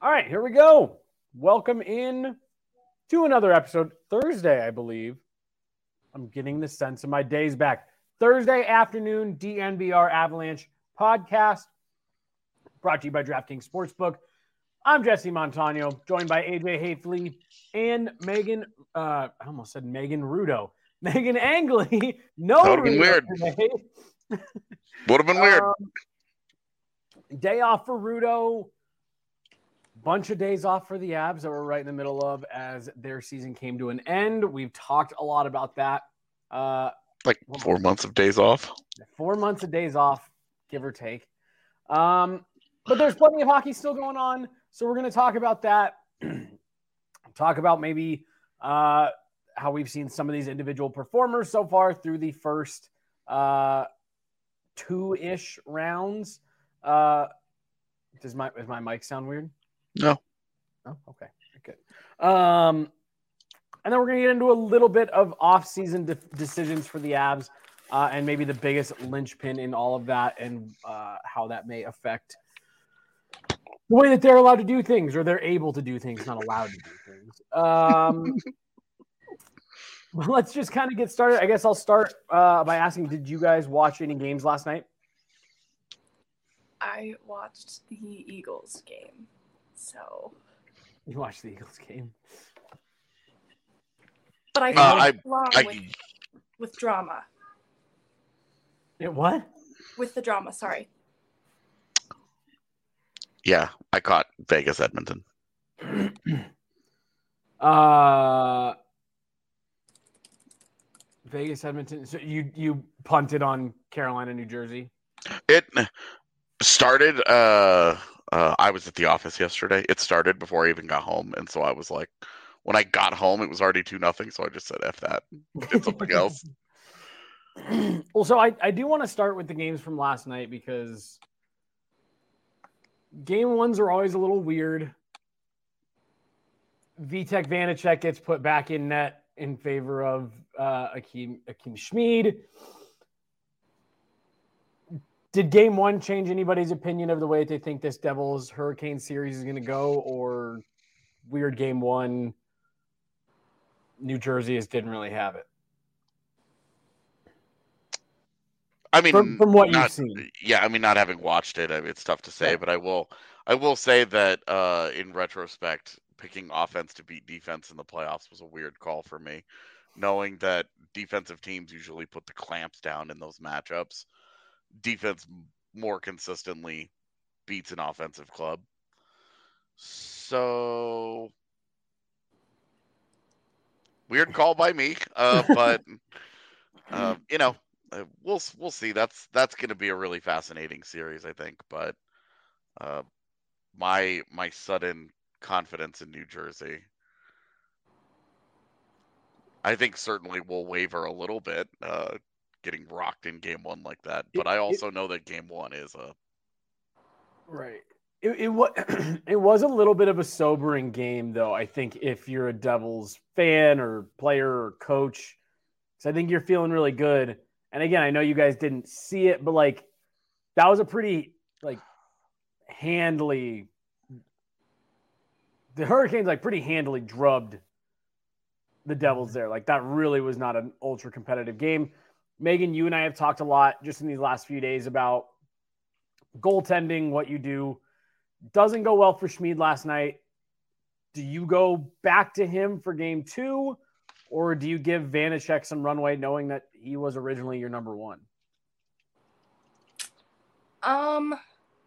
All right, here we go. Welcome in to another episode. Thursday, I believe. I'm getting the sense of my days back. Thursday afternoon, DNVR Avalanche podcast brought to you by DraftKings Sportsbook. I'm Jesse Montano, joined by AJ Hafley and Megan. I almost said Megan Rudo. Megan Angley. No, that would have been weird. Would have been weird. Day off for Rudo. Bunch of days off for the Avs that we're right in the middle of as their season came to an end. We've talked a lot about that. 4 months of days off. 4 months of days off, give or take. But there's plenty of hockey still going on. So we're going to talk about that. Talk about maybe how we've seen some of these individual performers so far through the first two-ish rounds. Does my mic sound weird? No. Oh, okay. Good. And then we're going to get into a little bit of off-season decisions for the Avs and maybe the biggest linchpin in all of that and how that may affect the way that they're allowed to do things or they're able to do things, not allowed to do things. Let's just kind of get started. I guess I'll start by asking, did you guys watch any games last night? I watched the Eagles game. So you watched the Eagles game, but I with drama. What? With the drama, sorry. Yeah, I caught Vegas Edmonton. Vegas Edmonton. So you punted on Carolina, New Jersey. It started. I was at the office yesterday. It started before I even got home, and so I was like, when I got home, it was already 2-0. So I just said, "F that," did something else. Well, so I do want to start with the games from last night because game ones are always a little weird. Vitek Vanacek gets put back in net in favor of Akim Schmid. Did game one change anybody's opinion of the way they think this Devils Hurricane series is going to go, or weird game one, New Jersey just didn't really have it? I mean, from what you've seen. Yeah, I mean, not having watched it, it's tough to say, yeah. But I will say that in retrospect, picking offense to beat defense in the playoffs was a weird call for me, knowing that defensive teams usually put the clamps down in those matchups. Defense more consistently beats an offensive club. So weird call by me, but we'll see. That's going to be a really fascinating series, I think. But my sudden confidence in New Jersey, I think certainly will waver a little bit. Getting rocked in game one like that, but I also know that game one is a right. It was a little bit of a sobering game, though. I think if you're a Devils fan or player or coach, because I think you're feeling really good. And again, I know you guys didn't see it, but that was a pretty handily. The Hurricanes pretty handily drubbed the Devils there. That really was not an ultra competitive game. Megan, you and I have talked a lot just in these last few days about goaltending, what you do. Doesn't go well for Schmid last night. Do you go back to him for game two, or do you give Vanacek some runway knowing that he was originally your number one? I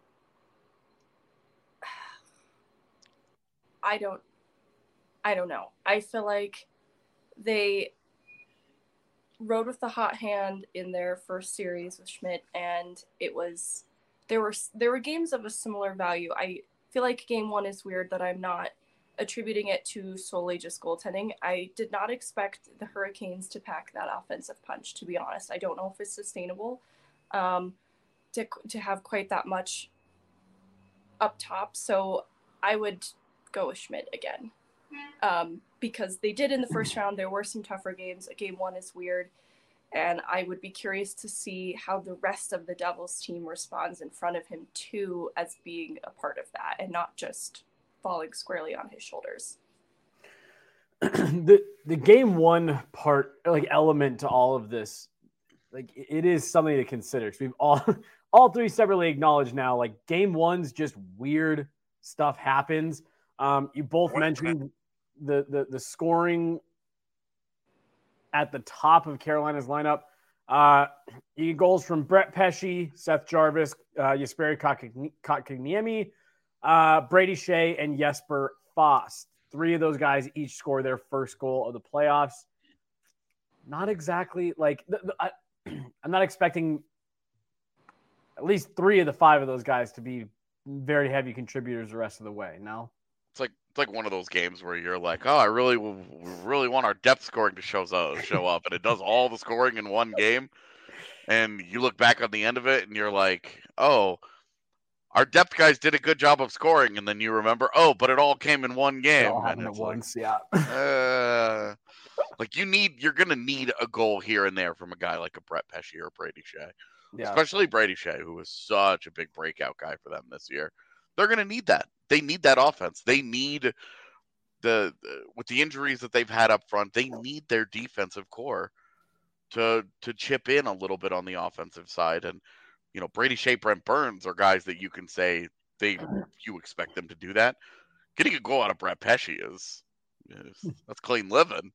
don't know. I feel like they rode with the hot hand in their first series with Schmidt, and there were games of a similar value. I feel like game one is weird that I'm not attributing it to solely just goaltending. I did not expect the Hurricanes to pack that offensive punch, to be honest. I don't know if it's sustainable to have quite that much up top. So I would go with Schmidt again. Because they did in the first round. There were some tougher games. Game one is weird. And I would be curious to see how the rest of the Devils team responds in front of him too, as being a part of that and not just falling squarely on his shoulders. The game one part, like element to all of this, like it is something to consider. So we've all three separately acknowledged now, like game one's just weird stuff happens. You both mentioned the scoring at the top of Carolina's lineup. You get goals from Brett Pesce, Seth Jarvis, Jesperi Kotkaniemi, Brady Shea, and Jesper Fast. Three of those guys each score their first goal of the playoffs. Not exactly like I'm not expecting at least three of the five of those guys to be very heavy contributors the rest of the way. No, it's like one of those games where you're like, oh, I really want our depth scoring to show up, and it does all the scoring in one game. And you look back on the end of it, and you're like, oh, our depth guys did a good job of scoring, and then you remember, oh, but it all came in one game. It all happened at once, yeah. Like you're gonna need a goal here and there from a guy like a Brett Pesce or Brady Shea, especially Brady Shea, who was such a big breakout guy for them this year. They're gonna need that. They need that offense. They need with the injuries that they've had up front, they need their defensive core to chip in a little bit on the offensive side. And Brady Shea, Brent Burns are guys that you can say you expect them to do that. Getting a goal out of Brett Pesce is that's clean living.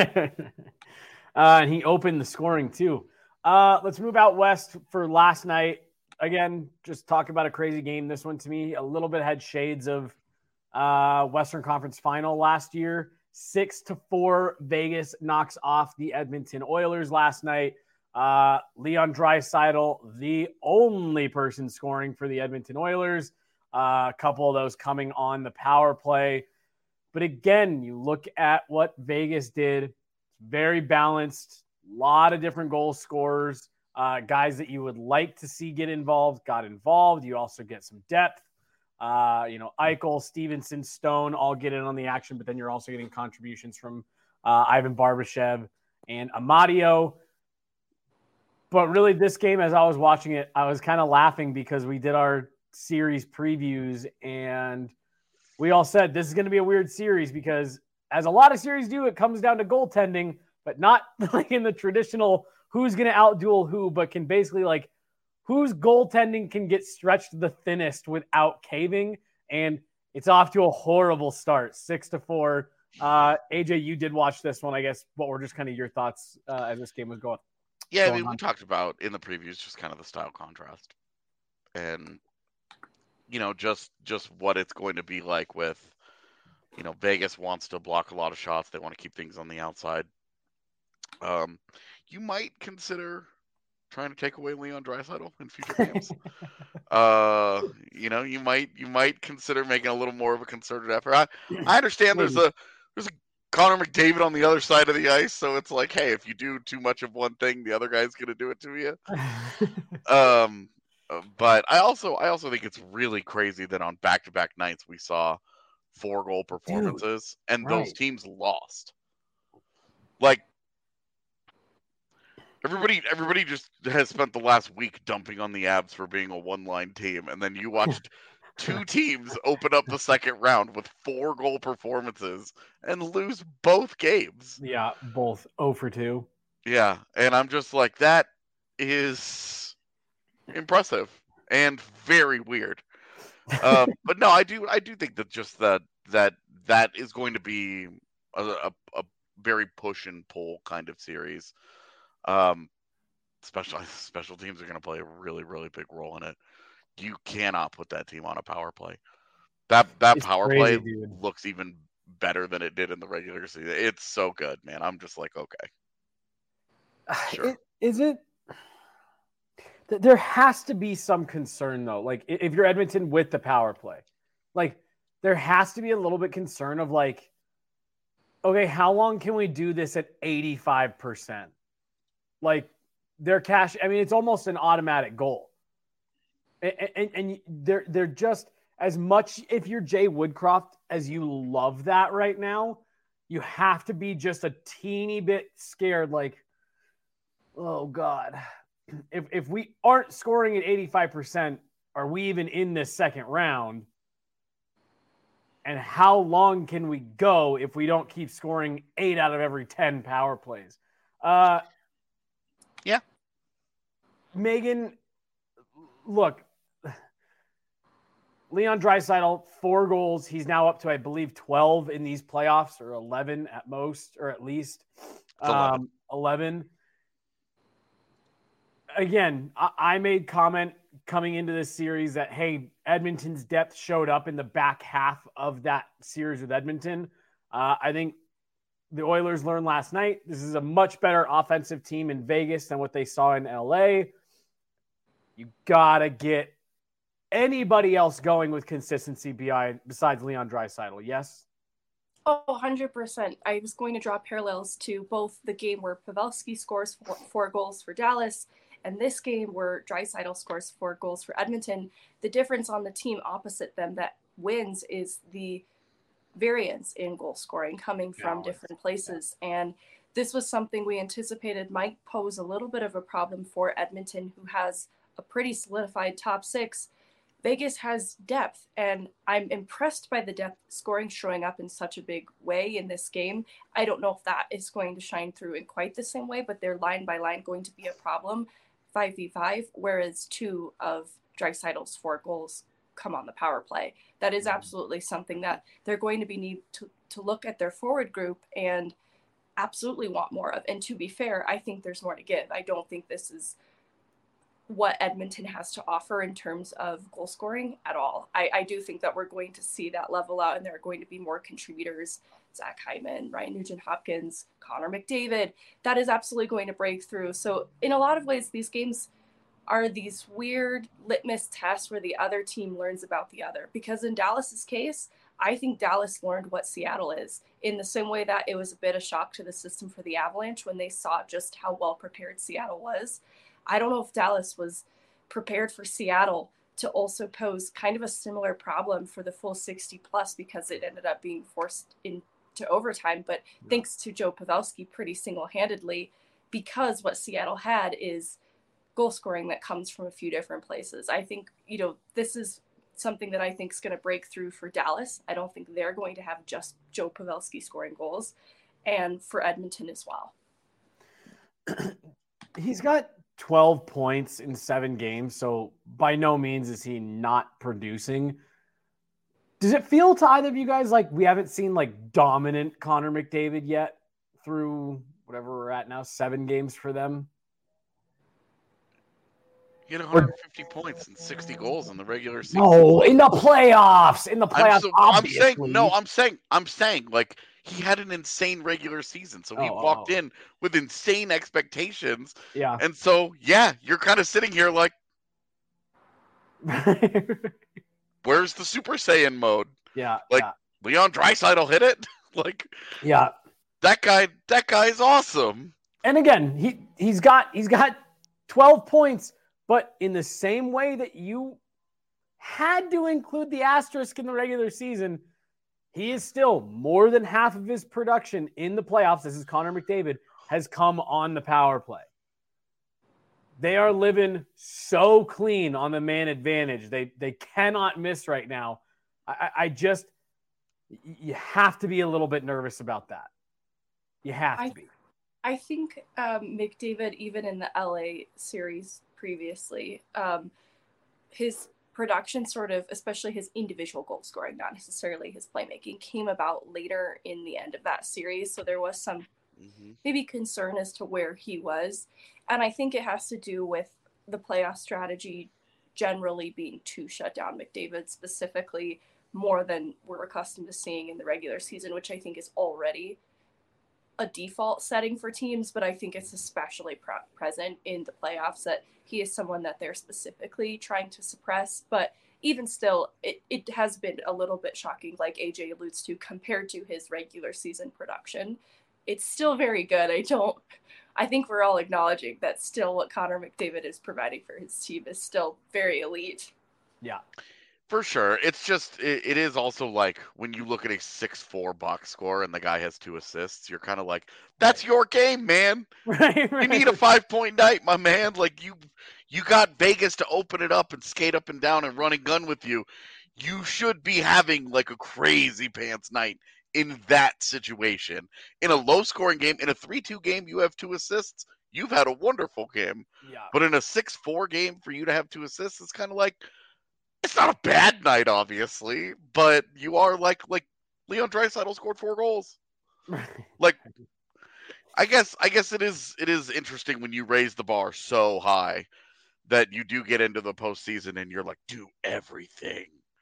And he opened the scoring too. Let's move out west for last night. Again, just talk about a crazy game. This one to me a little bit had shades of Western Conference Final last year. 6-4 Vegas knocks off the Edmonton Oilers last night. Leon Draisaitl, the only person scoring for the Edmonton Oilers. A couple of those coming on the power play. But again, you look at what Vegas did. Very balanced. A lot of different goal scorers. Guys that you would like to see get involved got involved. You also get some depth. Eichel, Stevenson, Stone all get in on the action, but then you're also getting contributions from Ivan Barbashev and Amadio. But really, this game, as I was watching it, I was kind of laughing because we did our series previews and we all said this is going to be a weird series because, as a lot of series do, it comes down to goaltending, but not like in the traditional who's going to outduel who, but can basically like whose goaltending can get stretched the thinnest without caving. And it's off to a horrible start, 6-4. AJ, you did watch this one. I guess what were just kind of your thoughts as this game was going? Yeah, I mean, we talked about in the previews just kind of the style contrast and, just what it's going to be like with, Vegas wants to block a lot of shots. They want to keep things on the outside. You might consider trying to take away Leon Draisaitl in future games. You might consider making a little more of a concerted effort. I understand there's a Connor McDavid on the other side of the ice, so it's like, hey, if you do too much of one thing, the other guy's gonna do it to you. But I also think it's really crazy that on back-to-back nights we saw 4-goal performances, and those teams lost. Like, everybody just has spent the last week dumping on the Avs for being a one-line team, and then you watched two teams open up the second round with 4-goal performances and lose both games. Yeah, both 0-2. Yeah, and I'm just like, that is impressive and very weird. But no, I do think that just that is going to be a very push and pull kind of series. Special teams are going to play a really, really big role in it. You cannot put that team on a power play. That power play looks even better than it did in the regular season. It's so good, man. I'm just like, okay. Sure. Is it? There has to be some concern, though. Like, if you're Edmonton with the power play, like, there has to be a little bit concern of, like, okay, how long can we do this at 85%? Like, their cash, I mean, it's almost an automatic goal. And they're just, as much, if you're Jay Woodcroft, as you love that right now, you have to be just a teeny bit scared, like, oh, God. If we aren't scoring at 85%, are we even in this second round? And how long can we go if we don't keep scoring 8 out of every 10 power plays? Yeah. Megan, look, Leon Draisaitl, 4 goals. He's now up to, I believe, 12 in these playoffs, or 11 at most, or at least 11. Again, I made comment coming into this series that, hey, Edmonton's depth showed up in the back half of that series with Edmonton. I think the Oilers learned last night this is a much better offensive team in Vegas than what they saw in LA. You got to get anybody else going with consistency besides Leon Draisaitl, yes? Oh, 100%. I was going to draw parallels to both the game where Pavelski scores 4 goals for Dallas and this game where Draisaitl scores 4 goals for Edmonton. The difference on the team opposite them that wins is the variance in goal scoring coming from different places. And this was something we anticipated might pose a little bit of a problem for Edmonton, who has a pretty solidified top 6. Vegas has depth, and I'm impressed by the depth scoring showing up in such a big way in this game. I don't know if that is going to shine through in quite the same way, but they're line by line going to be a problem 5v5, whereas 2 of Draisaitl's 4 goals come on the power play. That is absolutely something that they're going to be need to look at their forward group and absolutely want more of. And to be fair, I think there's more to give. I don't think this is what Edmonton has to offer in terms of goal scoring at all. I do think that we're going to see that level out, and there are going to be more contributors. Zach Hyman, Ryan Nugent-Hopkins, Connor McDavid. That is absolutely going to break through. So in a lot of ways, these games are these weird litmus tests where the other team learns about the other. Because in Dallas's case, I think Dallas learned what Seattle is, in the same way that it was a bit of shock to the system for the Avalanche when they saw just how well prepared Seattle was. I don't know if Dallas was prepared for Seattle to also pose kind of a similar problem for the full 60 plus, because it ended up being forced into overtime. But thanks to Joe Pavelski pretty single-handedly, because what Seattle had is goal scoring that comes from a few different places. I think, this is something that I think is going to break through for Dallas. I don't think they're going to have just Joe Pavelski scoring goals, and for Edmonton as well. He's got 12 points in 7 games, so by no means is he not producing. Does it feel to either of you guys like we haven't seen like dominant Connor McDavid yet through whatever we're at now, 7 games for them? He had 150 points and 60 goals in the regular season. No, in the playoffs. I'm saying, like, he had an insane regular season, so he walked in with insane expectations. Yeah. And so, you're kind of sitting here like, where's the Super Saiyan mode? Yeah. Like, Leon Draisaitl hit it. Like, yeah, that guy's awesome. And again, he's got 12 points. But in the same way that you had to include the asterisk in the regular season, he is still more than half of his production in the playoffs. This is Connor McDavid, has come on the power play. They are living so clean on the man advantage. They cannot miss right now. You have to be a little bit nervous about that. You have to be. I think McDavid, even in the LA series previously, his production sort of, especially his individual goal scoring, not necessarily his playmaking, came about later in the end of that series. So there was some maybe concern as to where he was. And I think it has to do with the playoff strategy generally being to shut down McDavid specifically more than we're accustomed to seeing in the regular season, which I think is already a default setting for teams, but I think it's especially present in the playoffs that he is someone that they're specifically trying to suppress. But even still, it has been a little bit shocking, like AJ alludes to, compared to his regular season production. It's still very good. I think we're all acknowledging that still what Connor McDavid is providing for his team is still very elite. Yeah. For sure. It's just, it is also like when you look at a 6-4 box score and the guy has 2 assists, you're kind of like, that's your game, man. Right. You need a 5-point night, my man. Like you got Vegas to open it up and skate up and down and run and gun with you. you should be having like a crazy pants night in that situation. In a low-scoring game, in a 3-2 game, you have 2 assists. You've had a wonderful game. Yeah. But in a 6-4 game, for you to have 2 assists, it's kind of like, it's not a bad night, obviously, but you are like Leon Draisaitl scored 4 goals. Like, I guess it is interesting when you raise the bar so high that you do get into the postseason and you're like, do everything.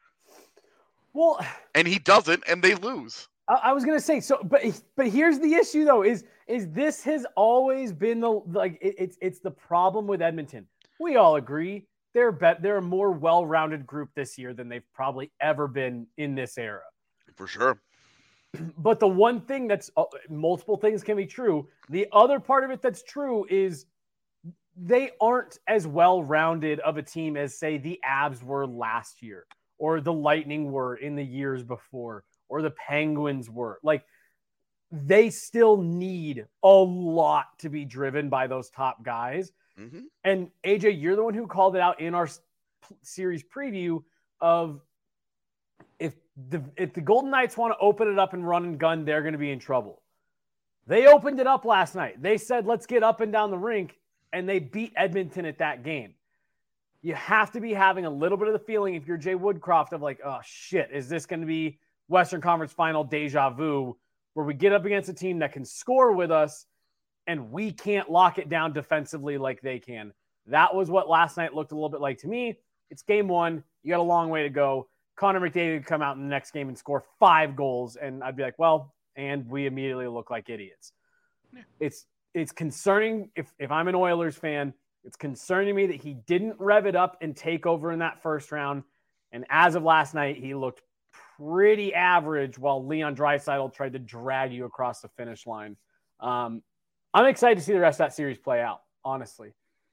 Well, and he doesn't, and they lose. I was gonna say so, but here's the issue though: is this has always been it's the problem with Edmonton. We all agree they're a more well-rounded group this year than they've probably ever been in this era. For sure. But the one thing that's multiple things can be true. The other part of it that's true is they aren't as well-rounded of a team as, say, the Avs were last year, or the Lightning were in the years before, or the Penguins were. Like, they still need a lot to be driven by those top guys. Mm-hmm. And AJ, you're the one who called it out in our series preview of if the Golden Knights want to open it up and run and gun, they're going to be in trouble. They opened it up last night. They said, let's get up and down the rink, and they beat Edmonton at that game. You have to be having a little bit of the feeling, if you're Jay Woodcroft, of like, oh, shit, is this going to be Western Conference Final deja vu, where we get up against a team that can score with us and we can't lock it down defensively like they can. That was what last night looked a little bit like to me. It's game one. You got a long way to go. Connor McDavid would come out in the next game and score 5 goals, and I'd be like, well, and we immediately look like idiots. Yeah. It's concerning. If I'm an Oilers fan, it's concerning me that he didn't rev it up and take over in that first round. And as of last night, he looked pretty average while Leon Draisaitl tried to drag you across the finish line. I'm excited to see the rest of that series play out, honestly.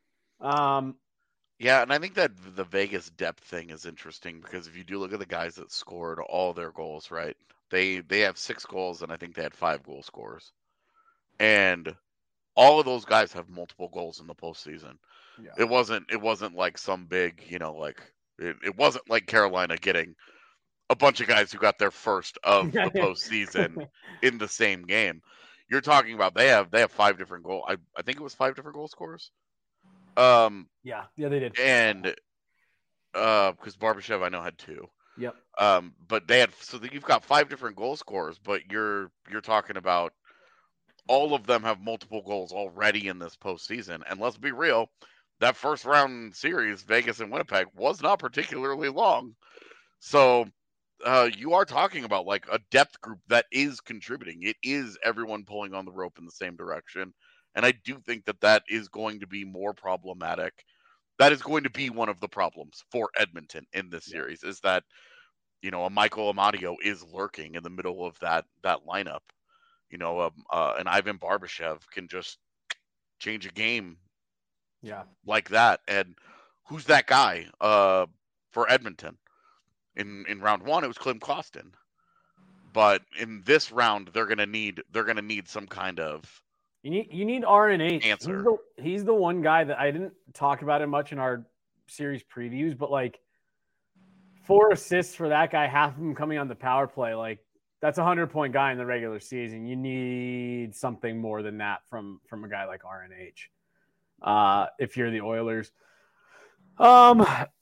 Yeah, and I think that the Vegas depth thing is interesting because if you do look at the guys that scored all their goals, right? They have 6 goals, and I think they had 5 goal scorers. And all of those guys have multiple goals in the postseason. Yeah. It wasn't like some big, it wasn't like Carolina getting a bunch of guys who got their first of the postseason in the same game. You're talking about they have 5 different goals. I think it was 5 different goal scorers. Yeah, they did. And because Barbashev I know had 2. Yep. But they had, so you've got 5 different goal scorers, but you're talking about all of them have multiple goals already in this postseason. And let's be real, that first round series, Vegas and Winnipeg, was not particularly long. So you are talking about like a depth group that is contributing. It is everyone pulling on the rope in the same direction. And I do think that is going to be more problematic. That is going to be one of the problems for Edmonton in this series, is that, a Michael Amadio is lurking in the middle of that lineup. An Ivan Barbashev can just change a game like that. And who's that guy for Edmonton? In round 1, it was Klim Kostin. But in this round, they're gonna need some kind of you need RNH answer. He's the one guy that I didn't talk about it much in our series previews, but like 4 assists for that guy, half of them coming on the power play, like that's a 100-point guy in the regular season. You need something more than that from a guy like RNH. If you're the Oilers. All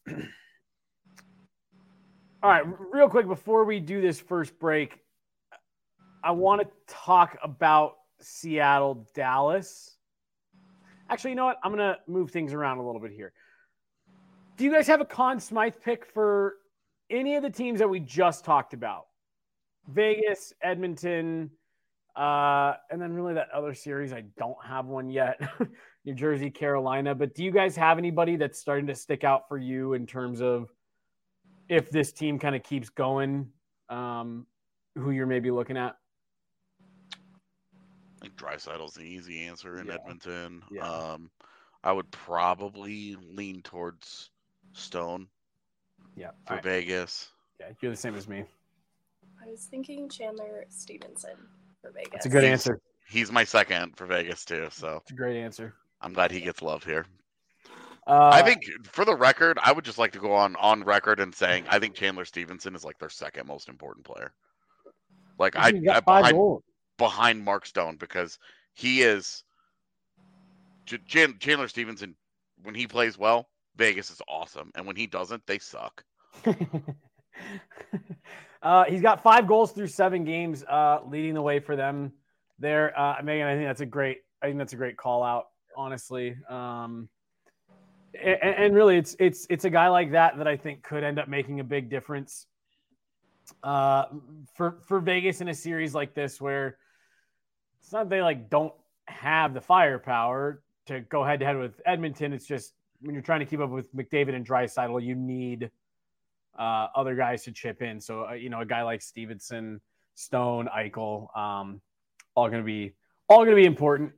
right, real quick before we do this first break, I want to talk about Seattle, Dallas. Actually, you know what? I'm going to move things around a little bit here. Do you guys have a Conn Smythe pick for any of the teams that we just talked about? Vegas, Edmonton, and then really that other series, I don't have one yet. New Jersey, Carolina. But do you guys have anybody that's starting to stick out for you in terms of if this team kind of keeps going, who you're maybe looking at? I think Draisaitl's the easy answer in Edmonton. Yeah. I would probably lean towards Stone for Vegas. Yeah, you're the same as me. I was thinking Chandler Stevenson for Vegas. That's a good answer. He's my second for Vegas too, so it's a great answer. I'm glad he gets love here. I think, for the record, I would just like to go on record and saying I think Chandler Stevenson is like their second most important player. Like I behind Mark Stone, because he is Chandler Stevenson. When he plays well, Vegas is awesome, and when he doesn't, they suck. He's got 5 goals through 7 games, leading the way for them there. Megan, I think that's a great call out, honestly. And really, it's a guy like that I think could end up making a big difference for Vegas in a series like this, where it's not they like don't have the firepower to go head to head with Edmonton. It's just when you're trying to keep up with McDavid and Draisaitl, you need other guys to chip in. So a guy like Stevenson, Stone, Eichel, all going to be important.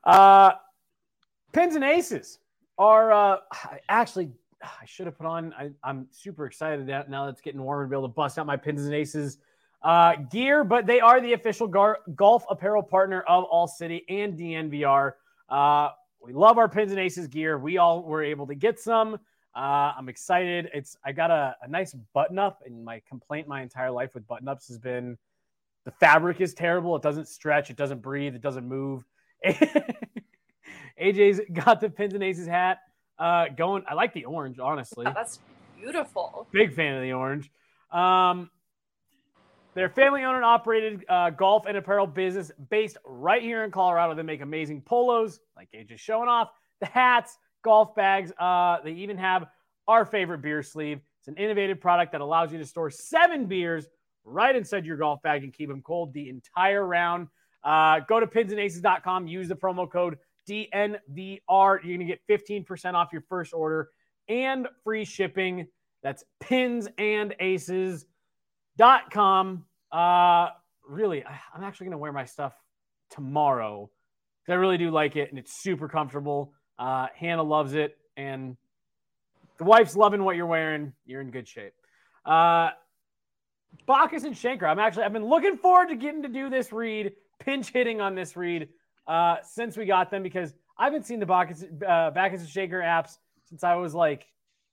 Pins and Aces are actually. I should have put on. I'm super excited that now that it's getting warmer to be able to bust out my Pins and Aces gear, but they are the official golf apparel partner of All City and DNVR. We love our Pins and Aces gear. We all were able to get some. I'm excited. I got a nice button up, and my complaint my entire life with button ups has been the fabric is terrible. It doesn't stretch. It doesn't breathe. It doesn't move. AJ's got the Pins and Aces hat. Going, I like the orange, honestly. Yeah, that's beautiful. Big fan of the orange. They're family-owned and operated golf and apparel business based right here in Colorado. They make amazing polos, like AJ's showing off, the hats, golf bags. They even have our favorite beer sleeve. It's an innovative product that allows you to store 7 beers right inside your golf bag and keep them cold the entire round. Go to pinsandaces.com. Use the promo code DNVR. You're going to get 15% off your first order and free shipping. That's pinsandaces.com. Really, I'm actually going to wear my stuff tomorrow because I really do like it, and it's super comfortable. Hannah loves it, and the wife's loving what you're wearing. You're in good shape. Backes and Schenker. I've been looking forward to getting to do this read, pinch hitting on this read since we got them, because I've been seeing the Backes and Schenker apps since I was like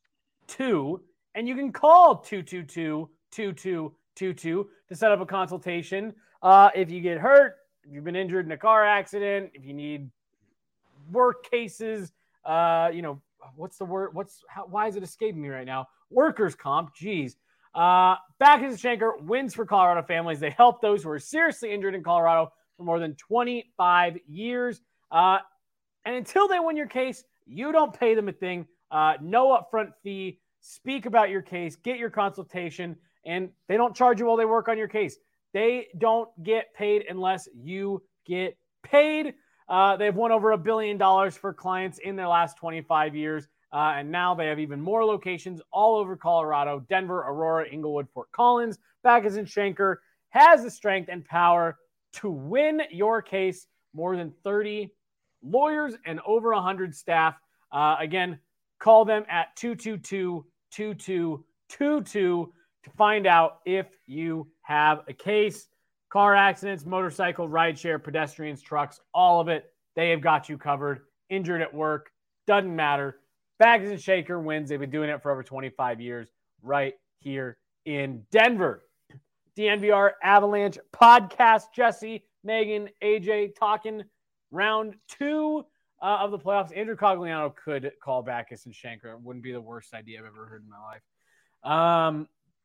2, and you can call 222-2222 to set up a consultation. If you get hurt, if you've been injured in a car accident, if you need work cases, what's the word? Why is it escaping me right now? Workers' comp. Geez. Backes and Schenker wins for Colorado families. They help those who are seriously injured in Colorado for more than 25 years. And until they win your case, you don't pay them a thing. No upfront fee. Speak about your case. Get your consultation. And they don't charge you while they work on your case. They don't get paid unless you get paid. They've won over $1 billion for clients in their last 25 years. And now they have even more locations all over Colorado: Denver, Aurora, Inglewood, Fort Collins. Backes and Schenker has the strength and power to win your case. More than 30 lawyers and over 100 staff. Again, call them at 222-2222 to find out if you have a case. Car accidents, motorcycle, rideshare, pedestrians, trucks, all of it, they have got you covered. Injured at work, doesn't matter. Backes and Schenker wins. They've been doing it for over 25 years right here in Denver. DNVR Avalanche podcast. Jesse, Megan, AJ talking round 2 of the playoffs. Andrew Cogliano could call Backes and Schenker. It wouldn't be the worst idea I've ever heard in my life.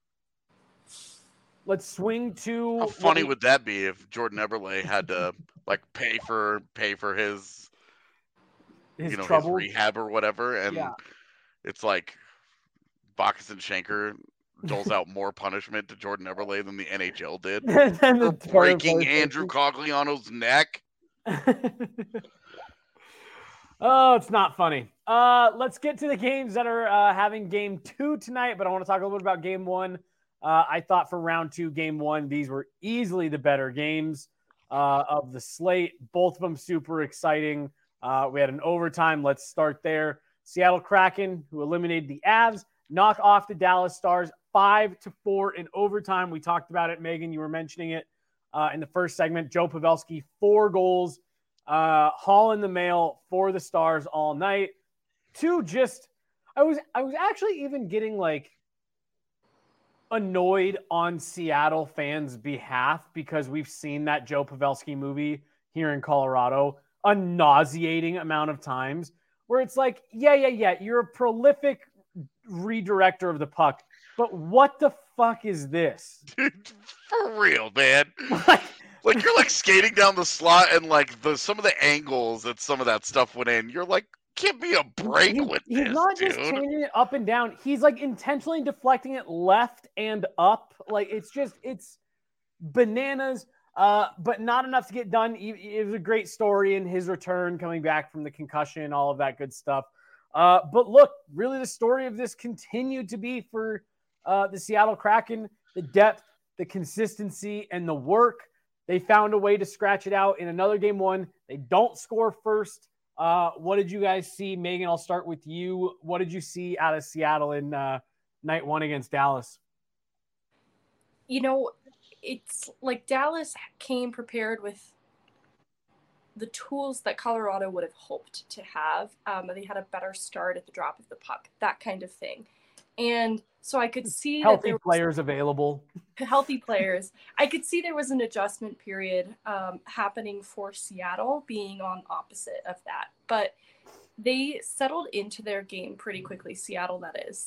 Let's swing to. How funny would that be if Jordan Eberle had to pay for his his rehab or whatever, and it's like Backes and Schenker doles out more punishment to Jordan Eberle than the NHL did for breaking Andrew Cogliano's neck. Oh, it's not funny. Let's get to the games that are having game 2 tonight, but I want to talk a little bit about game 1. I thought for round 2, game 1, these were easily the better games of the slate. Both of them super exciting. We had an overtime. Let's start there. Seattle Kraken, who eliminated the Avs, knock off the Dallas Stars 5-4 in overtime. We talked about it, Megan. You were mentioning it in the first segment. Joe Pavelski, 4 goals, hauling the mail for the Stars all night. two, just I was actually even getting like annoyed on Seattle fans' behalf because we've seen that Joe Pavelski movie here in Colorado a nauseating amount of times where it's like, yeah, you're a prolific redirector of the puck, but what the fuck is this? Dude, for real, man. Like you're like skating down the slot and like some of the angles that some of that stuff went in, you're like, give me a break with this, he's not dude. just changing it up and down. He's like intentionally deflecting it left and up. Like it's bananas. But not enough to get done. It was a great story in his return, coming back from the concussion, all of that good stuff. But look, really the story of this continued to be for the Seattle Kraken, the depth, the consistency, and the work. They found a way to scratch it out in another game one. They don't score first. What did you guys see? Megan, I'll start with you. What did you see out of Seattle in night one against Dallas? You know, it's like Dallas came prepared with the tools that Colorado would have hoped to have. They had a better start at the drop of the puck, that kind of thing. And so I could see healthy players available. Healthy players. I could see there was an adjustment period happening for Seattle, being on opposite of that. But they settled into their game pretty quickly, Seattle, that is.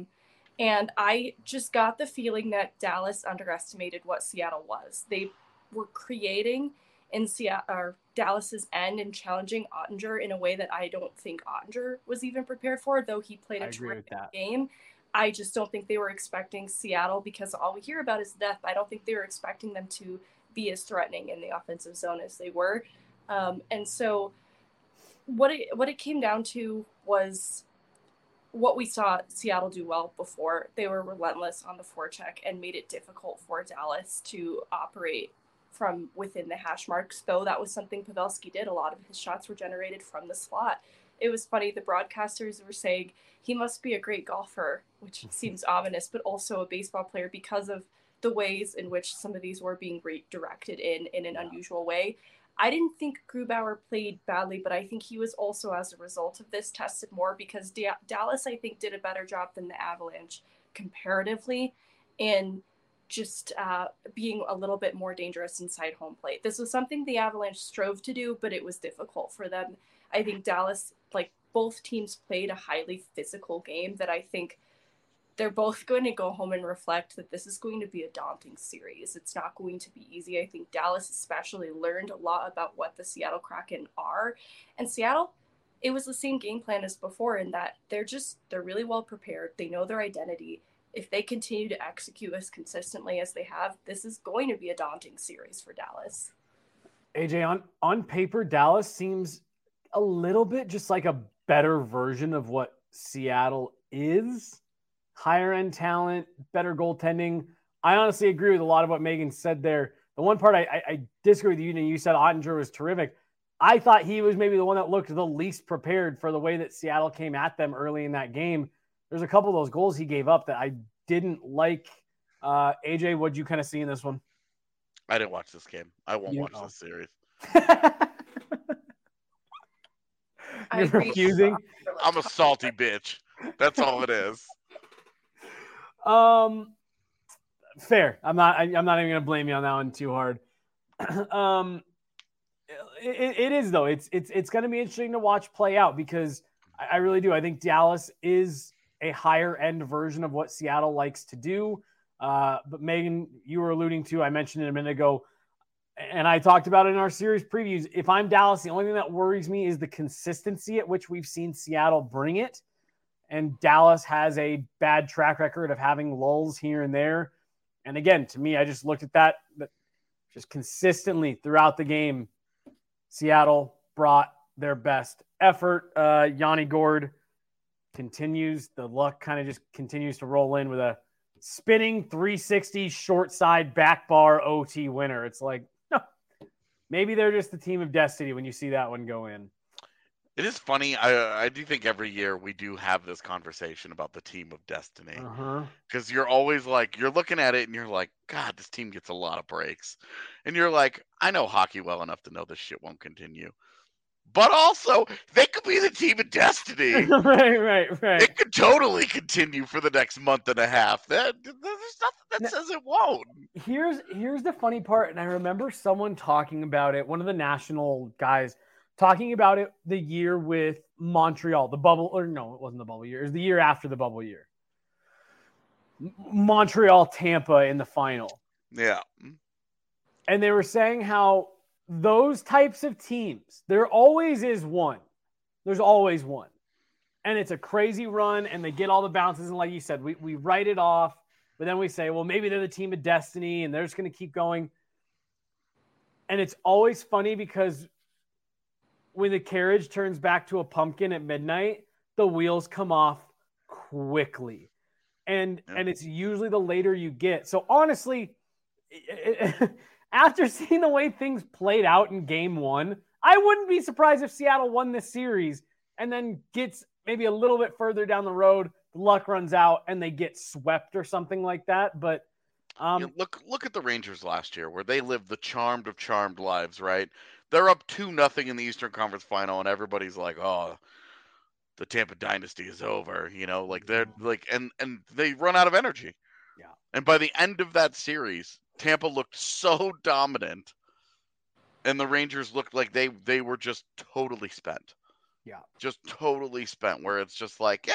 And I just got the feeling that Dallas underestimated what Seattle was. They were creating in Dallas's end and challenging Ottinger in a way that I don't think Ottinger was even prepared for, though he played a terrific game. I just don't think they were expecting Seattle, because all we hear about is death. I don't think they were expecting them to be as threatening in the offensive zone as they were. And so what it came down to was what we saw Seattle do well before. They were relentless on the forecheck and made it difficult for Dallas to operate from within the hash marks, though that was something Pavelski did. A lot of his shots were generated from the slot. It was funny, the broadcasters were saying he must be a great golfer, which seems ominous, but also a baseball player because of the ways in which some of these were being redirected in an unusual way. I didn't think Grubauer played badly, but I think he was also, as a result of this, tested more, because Dallas, I think, did a better job than the Avalanche comparatively in just being a little bit more dangerous inside home plate. This was something the Avalanche strove to do, but it was difficult for them. I think Dallas, like both teams, played a highly physical game that I think they're both going to go home and reflect that this is going to be a daunting series. It's not going to be easy. I think Dallas especially learned a lot about what the Seattle Kraken are. And Seattle, it was the same game plan as before in that they're really well prepared. They know their identity. If they continue to execute as consistently as they have, this is going to be a daunting series for Dallas. AJ, on paper, Dallas seems a little bit just like a better version of what Seattle is. Higher end talent, better goaltending. I honestly agree with a lot of what Megan said there. The one part I disagree with you, and you said Ottinger was terrific. I thought he was maybe the one that looked the least prepared for the way that Seattle came at them early in that game. There's a couple of those goals he gave up that I didn't like. AJ, what'd you kind of see in this one? I didn't watch this game. I won't watch this series. You're refusing? I'm a salty bitch. That's all it is. Fair. I'm not even going to blame you on that one too hard. It is though. It's going to be interesting to watch play out, because I really do. I think Dallas is a higher end version of what Seattle likes to do. But Megan, you were alluding to, I mentioned it a minute ago, and I talked about it in our series previews. If I'm Dallas, the only thing that worries me is the consistency at which we've seen Seattle bring it. And Dallas has a bad track record of having lulls here and there. And again, to me, I just looked at that, but just consistently throughout the game, Seattle brought their best effort. Yanni Gourde continues. The luck kind of just continues to roll in with a spinning 360 short side back bar OT winner. It's like, maybe they're just the team of destiny when you see that one go in. It is funny. I do think every year we do have this conversation about the team of destiny. Because you're always like, you're looking at it and you're like, God, this team gets a lot of breaks. And you're like, I know hockey well enough to know this shit won't continue. but also they could be the team of destiny. right. It could totally continue for the next month and a half. There's nothing that says it won't. Here's the funny part, and I remember someone talking about it, one of the national guys talking about it the year with Montreal, the bubble, or no, it wasn't the bubble year. It was the year after the bubble year. Montreal, Tampa in the final. Yeah. And they were saying how those types of teams, there always is one. There's always one. And it's a crazy run, and they get all the bounces. And like you said, we write it off, but then we say, well, maybe they're the team of destiny, and they're just going to keep going. And it's always funny because when the carriage turns back to a pumpkin at midnight, the wheels come off quickly. And it's usually the later you get. So honestly, after seeing the way things played out in game one, I wouldn't be surprised if Seattle won this series and then gets maybe a little bit further down the road, the luck runs out and they get swept or something like that. But look at the Rangers last year, where they lived the charmed of charmed lives, right? They're up 2-0 in the Eastern Conference Final, and everybody's like, "Oh, the Tampa dynasty is over." Like they're like, and they run out of energy. Yeah. And by the end of that series, Tampa looked so dominant, and the Rangers looked like they were just totally spent. Yeah. Just totally spent. Where it's just like,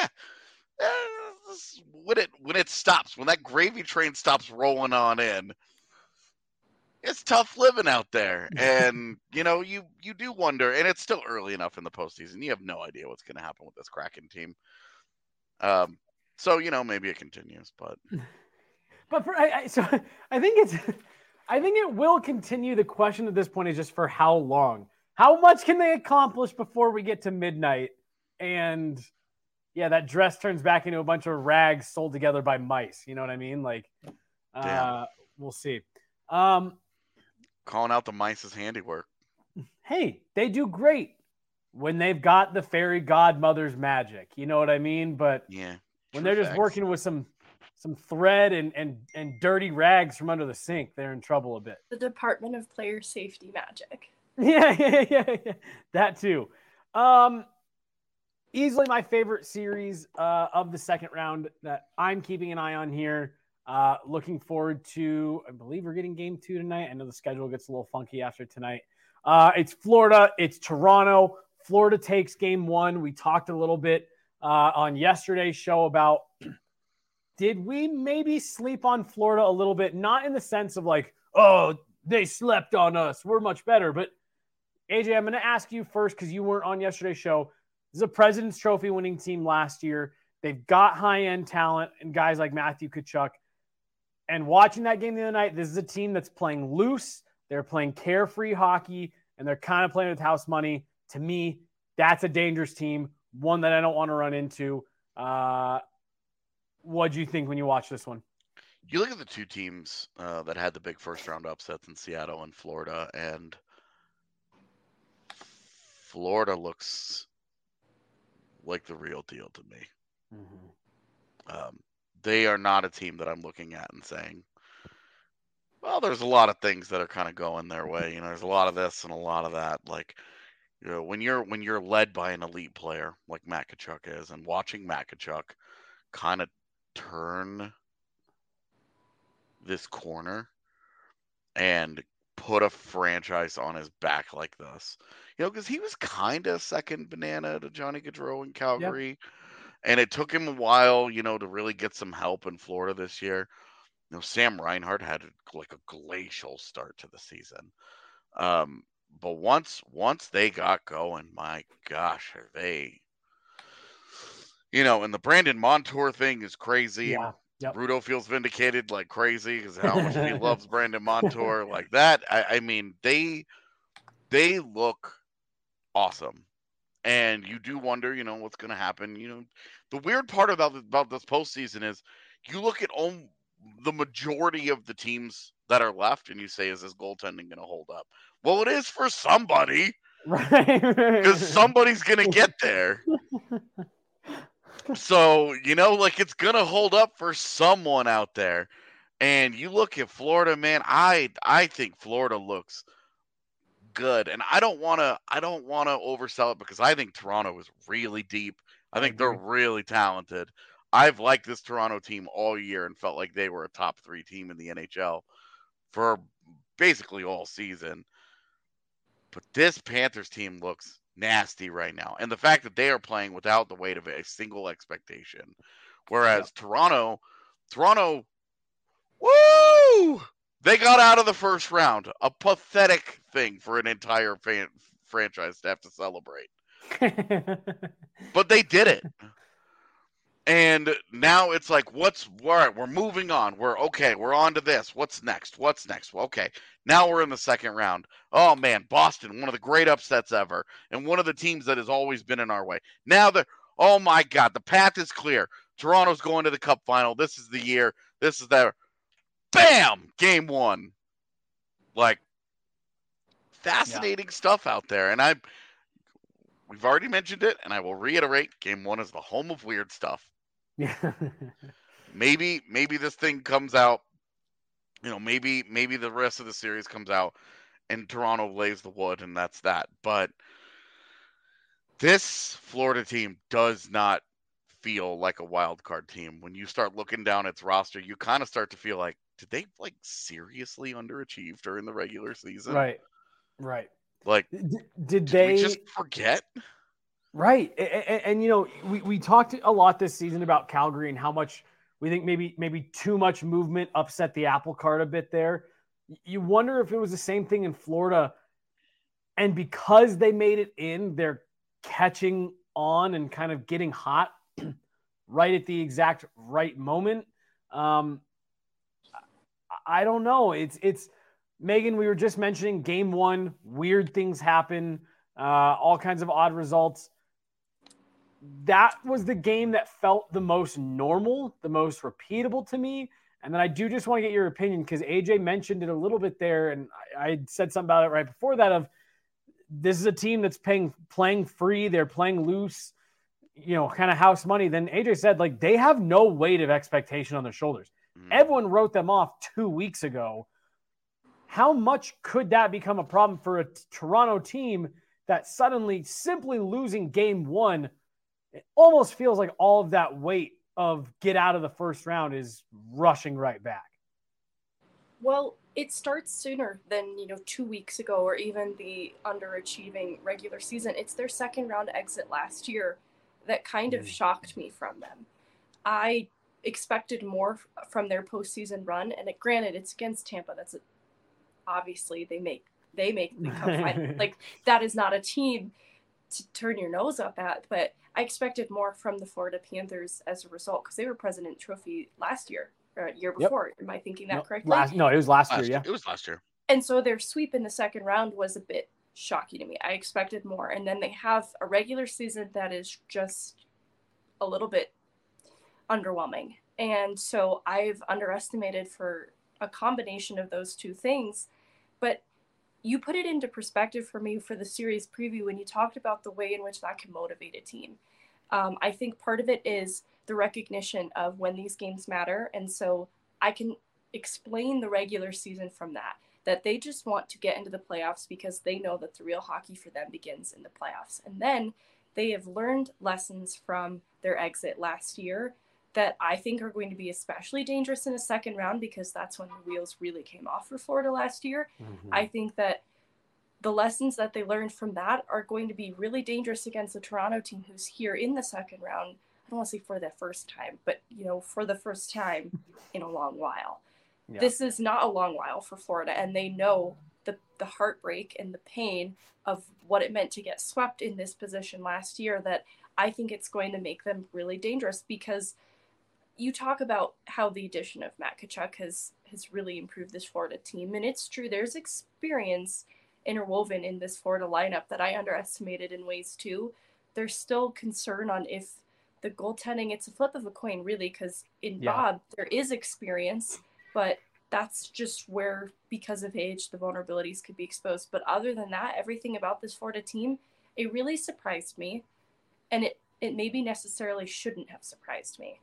when it stops, when that gravy train stops rolling on in, it's tough living out there. And you do wonder, and it's still early enough in the postseason. You have no idea what's going to happen with this Kraken team. So maybe it continues, but I think it will continue. The question at this point is just for how long. How much can they accomplish before we get to midnight? And yeah, that dress turns back into a bunch of rags sold together by mice. You know what I mean? Like, we'll see. Calling out the mice's handiwork. Hey, they do great when they've got the fairy godmother's magic. You know what I mean? But yeah, when they're just working with some thread and dirty rags from under the sink, they're in trouble a bit. The Department of Player Safety magic. Yeah. That too. Easily my favorite series of the second round that I'm keeping an eye on here. Looking forward to, I believe we're getting game 2 tonight. I know the schedule gets a little funky after tonight. It's Florida. It's Toronto. Florida takes game 1. We talked a little bit on yesterday's show about did we maybe sleep on Florida a little bit? Not in the sense of like, oh, they slept on us, we're much better. But AJ, I'm going to ask you first because you weren't on yesterday's show. This is a President's Trophy winning team last year. They've got high-end talent and guys like Matthew Tkachuk. And watching that game the other night, this is a team that's playing loose. They're playing carefree hockey, and they're kind of playing with house money. To me, that's a dangerous team, one that I don't want to run into. What do you think when you watch this one? You look at the two teams that had the big first-round upsets in Seattle and Florida, and Florida looks like the real deal to me. Mm-hmm. They are not a team that I'm looking at and saying, well, there's a lot of things that are kind of going their way. There's a lot of this and a lot of that. Like, when you're led by an elite player like Matt Tkachuk is, and watching Matt Tkachuk kind of turn this corner and put a franchise on his back like this, because he was kind of second banana to Johnny Gaudreau in Calgary. Yep. And it took him a while, to really get some help in Florida this year. Sam Reinhart had like a glacial start to the season. But once they got going, my gosh, are they, and the Brandon Montour thing is crazy. Yeah. Yep. Rudo feels vindicated like crazy because how much he loves Brandon Montour like that. I mean, they look awesome. And you do wonder, what's going to happen. The weird part about this postseason is you look at the majority of the teams that are left and you say, is this goaltending going to hold up? Well, it is for somebody. Right. Because somebody's going to get there. So, it's going to hold up for someone out there. And you look at Florida, man, I think Florida looks good. And I don't want to oversell it because I think Toronto is really deep. I think they're really talented. I've liked this Toronto team all year and felt like they were a top 3 team in the NHL for basically all season. But this Panthers team looks nasty right now. And the fact that they are playing without the weight of a single expectation. Whereas Toronto, woo! They got out of the first round. A pathetic thing for an entire franchise to have to celebrate. But they did it. And now it's like, all right, we're moving on. We're on to this. What's next? Well, okay, now we're in the second round. Oh, man, Boston, one of the great upsets ever, and one of the teams that has always been in our way. Now, oh, my God, the path is clear. Toronto's going to the Cup final. This is the year. This is their bam, game 1. Like, fascinating stuff out there. And we've already mentioned it, and I will reiterate, game 1 is the home of weird stuff. Yeah. maybe this thing comes out, maybe the rest of the series comes out and Toronto lays the wood and that's that. But this Florida team does not feel like a wild card team. When you start looking down its roster, you kind of start to feel like, did they seriously underachieve during the regular season? Right. Like, did they we just forget? Right. And we talked a lot this season about Calgary and how much we think maybe too much movement upset the apple cart a bit there. You wonder if it was the same thing in Florida. And because they made it in, they're catching on and kind of getting hot right at the exact right moment. I don't know. It's Megan, we were just mentioning game 1, weird things happen, all kinds of odd results. That was the game that felt the most normal, the most repeatable to me. And then I do just want to get your opinion because AJ mentioned it a little bit there. And I said something about it right before that of this is a team that's playing free. They're playing loose, kind of house money. Then AJ said, they have no weight of expectation on their shoulders. Everyone wrote them off 2 weeks ago. How much could that become a problem for a Toronto team that suddenly simply losing game 1, it almost feels like all of that weight of get out of the first round is rushing right back? Well, it starts sooner than, 2 weeks ago or even the underachieving regular season. It's their second round exit last year that kind of shocked me from them. I expected more from their postseason run, and granted, it's against Tampa. That's obviously they make the Cup final. That is not a team to turn your nose up at, but I expected more from the Florida Panthers as a result because they were President Trophy last year or year before. Yep. Am I thinking that correctly? It was last year. Yeah, it was last year. And so their sweep in the second round was a bit shocking to me. I expected more, and then they have a regular season that is just a little bit underwhelming, and so I've underestimated for a combination of those two things. But you put it into perspective for me for the series preview when you talked about the way in which that can motivate a team. I think part of it is the recognition of when these games matter. And so I can explain the regular season from that they just want to get into the playoffs because they know that the real hockey for them begins in the playoffs. And then they have learned lessons from their exit last year that I think are going to be especially dangerous in a second round because that's when the wheels really came off for Florida last year. Mm-hmm. I think that the lessons that they learned from that are going to be really dangerous against the Toronto team who's here in the second round. I don't want to say for the first time, but, for the first time in a long while. Yeah. This is not a long while for Florida, and they know the heartbreak and the pain of what it meant to get swept in this position last year, that I think it's going to make them really dangerous because you talk about how the addition of Matt Tkachuk has really improved this Florida team. And it's true, there's experience interwoven in this Florida lineup that I underestimated in ways too. There's still concern on if the goaltending, it's a flip of a coin really, because in Bob, there is experience, but that's just where, because of age, the vulnerabilities could be exposed. But other than that, everything about this Florida team, it really surprised me. And it maybe necessarily shouldn't have surprised me.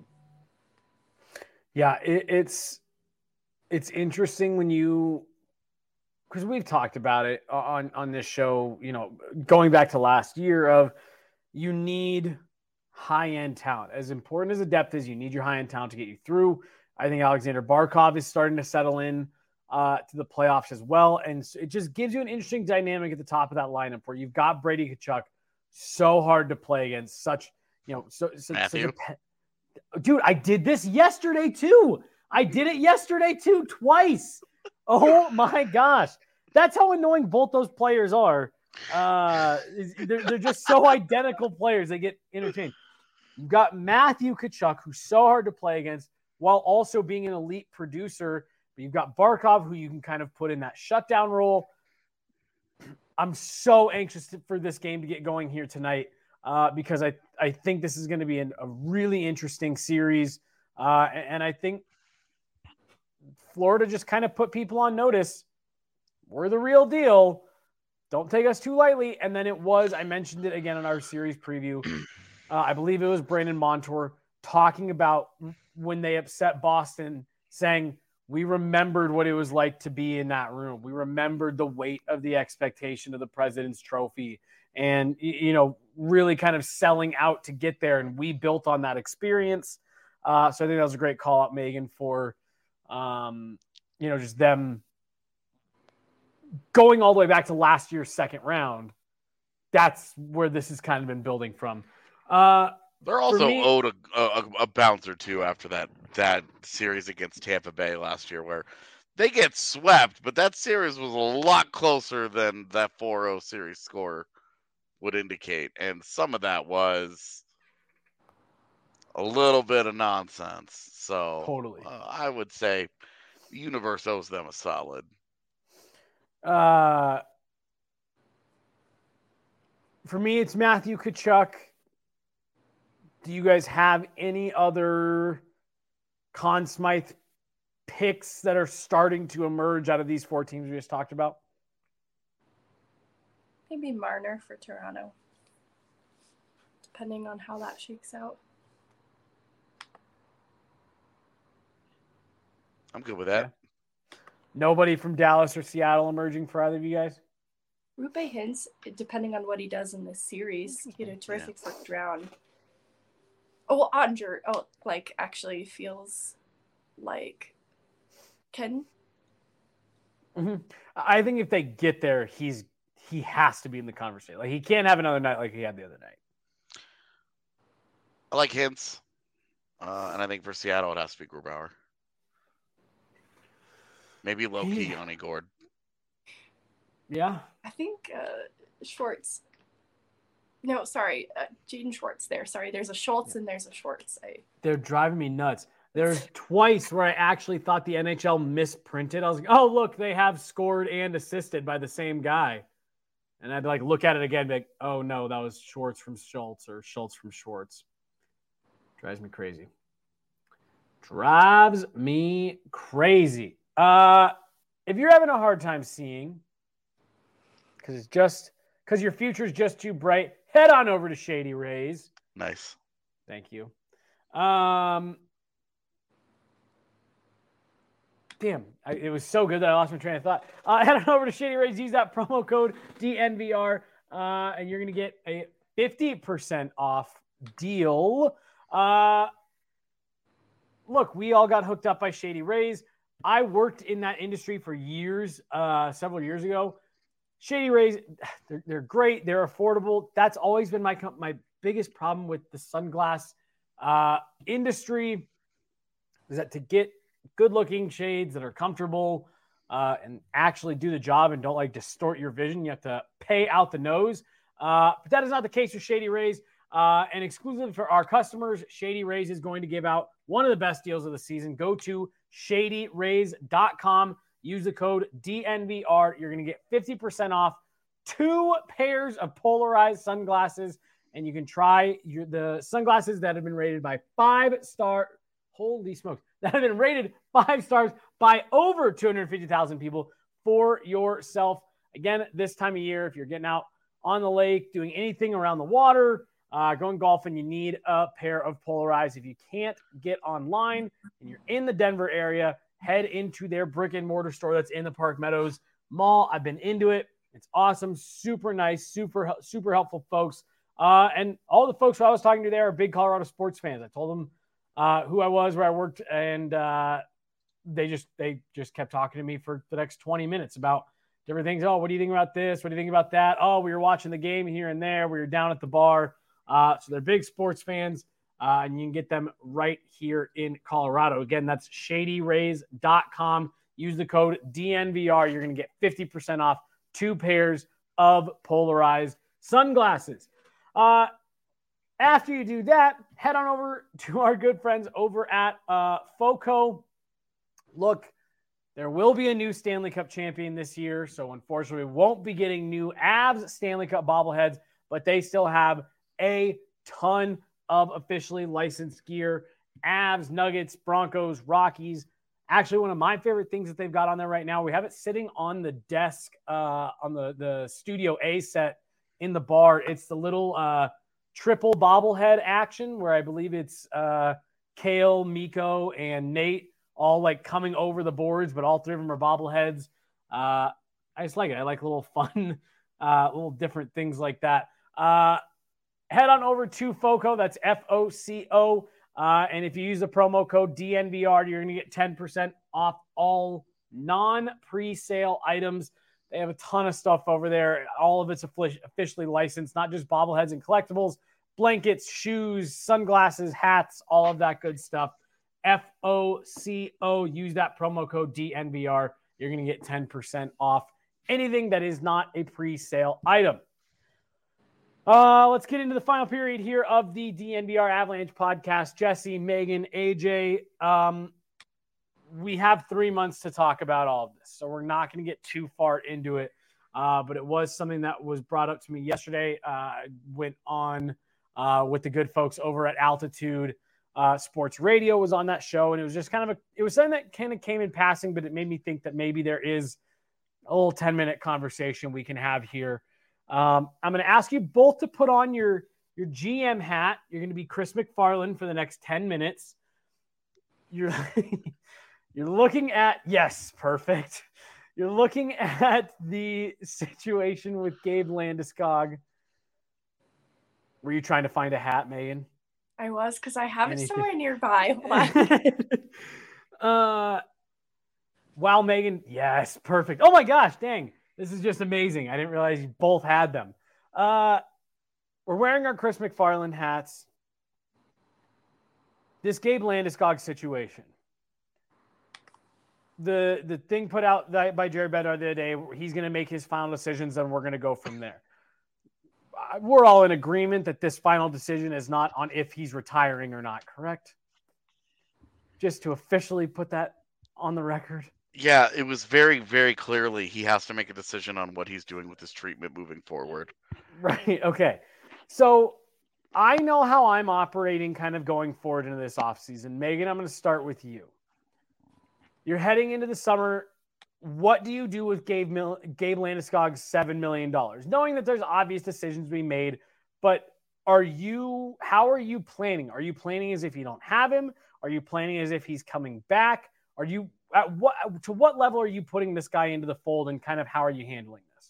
Yeah, it's interesting when you because we've talked about it on this show, going back to last year of you need high-end talent. As important as the depth is, you need your high-end talent to get you through. I think Alexander Barkov is starting to settle in to the playoffs as well. And it just gives you an interesting dynamic at the top of that lineup where you've got Brady Tkachuk, so hard to play against, such dude, I did this yesterday too. Twice. Oh my gosh. That's how annoying both those players are. They're just so identical players. They get interchanged. You've got Matthew Tkachuk, who's so hard to play against while also being an elite producer. But you've got Barkov, who you can kind of put in that shutdown role. I'm so anxious for this game to get going here tonight because I think this is going to be a really interesting series. And I think Florida just kind of put people on notice. We're the real deal. Don't take us too lightly. And then I mentioned it again in our series preview. I believe it was Brandon Montour talking about when they upset Boston, saying, we remembered what it was like to be in that room. We remembered the weight of the expectation of the President's Trophy and, really kind of selling out to get there. And we built on that experience. So I think that was a great call out, Megan, for, just them going all the way back to last year's second round. That's where this has kind of been building from. They're also owed a bounce or two after that series against Tampa Bay last year where they get swept, but that series was a lot closer than that 4-0 series score would indicate. And some of that was a little bit of nonsense. So totally. I would say the universe owes them a solid. For me, it's Matthew Tkachuk. Do you guys have any other Conn Smythe picks that are starting to emerge out of these four teams we just talked about? Maybe Marner for Toronto, depending on how that shakes out. I'm good with that. Yeah. Nobody from Dallas or Seattle emerging for either of you guys? Roope Hintz, depending on what he does in this series, he had a terrific first round. Oh, well, Ottinger, actually feels like Ken. Mm-hmm. I think if they get there, he has to be in the conversation. Like, he can't have another night like he had the other night. I like Hintz. And I think for Seattle, it has to be Grubauer. Maybe low-key Yanni Gourde. Yeah. I think Schwartz. No, sorry, Jaden Schwartz there. Sorry, there's a Schultz and there's a Schwartz. They're driving me nuts. There's twice where I actually thought the NHL misprinted. I was like, oh, look, they have scored and assisted by the same guy. And I'd look at it again and be like, oh, no, that was Schwartz from Schultz or Schultz from Schwartz. Drives me crazy. If you're having a hard time seeing, because your future's just too bright, head on over to Shady Rays. Nice. Thank you. Damn, it was so good that I lost my train of thought. Head on over to Shady Rays. Use that promo code DNVR, and you're going to get a 50% off deal. Look, we all got hooked up by Shady Rays. I worked in that industry for years, several years ago. Shady Rays, they're great. They're affordable. That's always been my biggest problem with the sunglass industry is that to get good-looking shades that are comfortable and actually do the job and don't distort your vision, you have to pay out the nose. But that is not the case with Shady Rays. And exclusively for our customers, Shady Rays is going to give out one of the best deals of the season. Go to shadyrays.com. Use the code DNVR. You're going to get 50% off 2 pairs of polarized sunglasses, and you can try the sunglasses that have been rated by 5-star. Holy smokes. That have been rated 5 stars by over 250,000 people for yourself. Again, this time of year, if you're getting out on the lake, doing anything around the water, going golfing, you need a pair of polarized. If you can't get online and you're in the Denver area, head into their brick and mortar store that's in the Park Meadows Mall. I've been into it. It's awesome, super nice, super helpful folks. And all the folks who I was talking to there are big Colorado sports fans. I told them who I was, where I worked, and they just kept talking to me for the next 20 minutes about different things. Oh, what do you think about this? What do you think about that? Oh, we were watching the game here and there. We were down at the bar. So they're big sports fans, and you can get them right here in Colorado. Again, that's shadyrays.com. Use the code DNVR. You're going to get 50% off 2 pairs of polarized sunglasses. After you do that, head on over to our good friends over at FOCO. Look, there will be a new Stanley Cup champion this year, so unfortunately we won't be getting new Avs Stanley Cup bobbleheads, but they still have a ton of officially licensed gear. Avs, Nuggets, Broncos, Rockies. Actually, one of my favorite things that they've got on there right now, we have it sitting on the desk on the Studio A set in the bar. It's the little triple bobblehead action where I believe it's Kale, Miko, and Nate all like coming over the boards, but all 3 of them are bobbleheads. I just like it. I like little fun, little different things like that. Head on over to FOCO. That's FOCO. And if you use the promo code DNVR, you're going to get 10% off all non-pre-sale items. They have a ton of stuff over there. All of it's officially licensed, not just bobbleheads and collectibles, blankets, shoes, sunglasses, hats, all of that good stuff. FOCO. Use that promo code DNVR. You're going to get 10% off anything that is not a pre-sale item. Let's get into the final period here of the DNVR Avalanche podcast. Jesse, Megan, AJ, we have 3 months to talk about all of this, so we're not going to get too far into it. But it was something that was brought up to me yesterday. I went on with the good folks over at Altitude Sports Radio, was on that show, and it was just it was something that kind of came in passing, but it made me think that maybe there is a little 10-minute conversation we can have here. I'm going to ask you both to put on your GM hat. You're going to be Chris McFarland for the next 10 minutes. You're looking at, yes, perfect. You're looking at the situation with Gabe Landeskog. Were you trying to find a hat, Megan? I was, because I have it somewhere nearby. Wow, Megan. Yes, perfect. Oh my gosh, dang. This is just amazing. I didn't realize you both had them. We're wearing our Chris McFarland hats. This Gabe Landeskog situation. The thing put out by Jared Bednar the other day, he's going to make his final decisions, and we're going to go from there. We're all in agreement that this final decision is not on if he's retiring or not, correct? Just to officially put that on the record. Yeah, it was very, very clearly he has to make a decision on what he's doing with his treatment moving forward. Right. Okay. So I know how I'm operating kind of going forward into this offseason. Megan, I'm going to start with you. You're heading into the summer. What do you do with Gabe Landeskog's $7 million? Knowing that there's obvious decisions being made, but how are you planning? Are you planning as if you don't have him? Are you planning as if he's coming back? To what level are you putting this guy into the fold, and kind of how are you handling this?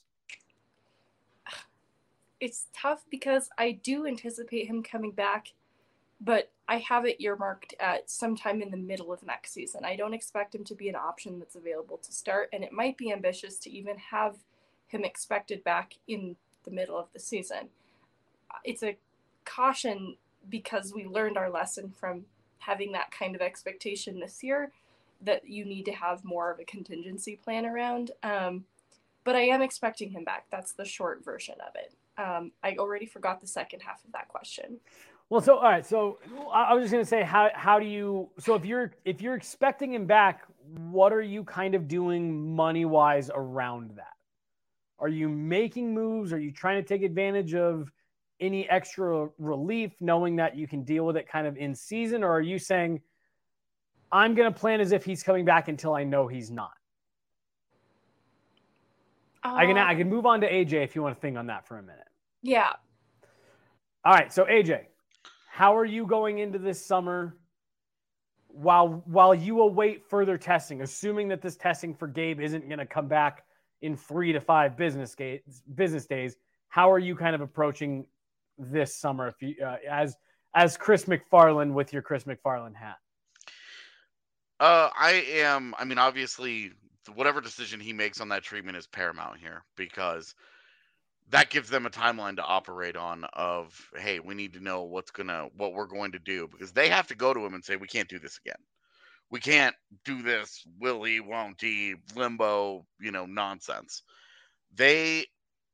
It's tough because I do anticipate him coming back, but I have it earmarked at sometime in the middle of next season. I don't expect him to be an option that's available to start, and it might be ambitious to even have him expected back in the middle of the season. It's a caution because we learned our lesson from having that kind of expectation this year, that you need to have more of a contingency plan around. But I am expecting him back. That's the short version of it. I already forgot the second half of that question. Well, all right. So I was just going to say, how do you, so if you're expecting him back, what are you kind of doing money-wise around that? Are you making moves? Are you trying to take advantage of any extra relief, knowing that you can deal with it kind of in season? Or are you saying, I'm going to plan as if he's coming back until I know he's not? I can move on to AJ if you want to think on that for a minute. Yeah. All right. So AJ, how are you going into this summer while you await further testing, assuming that this testing for Gabe isn't going to come back in 3 to 5 business days. How are you kind of approaching this summer if you, as Chris McFarland with your Chris McFarland hat? I mean, obviously, whatever decision he makes on that treatment is paramount here because that gives them a timeline to operate on of, hey, we need to know what we're going to do because they have to go to him and say, we can't do this again. We can't do this willy won't he limbo, nonsense. They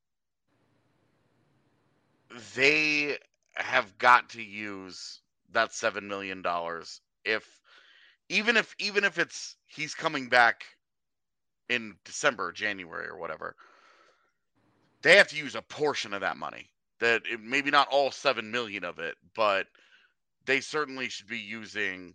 have got to use that $7 million even if it's he's coming back in December or January or whatever, they have to use a portion of that money. Maybe not all 7 million of it, but they certainly should be using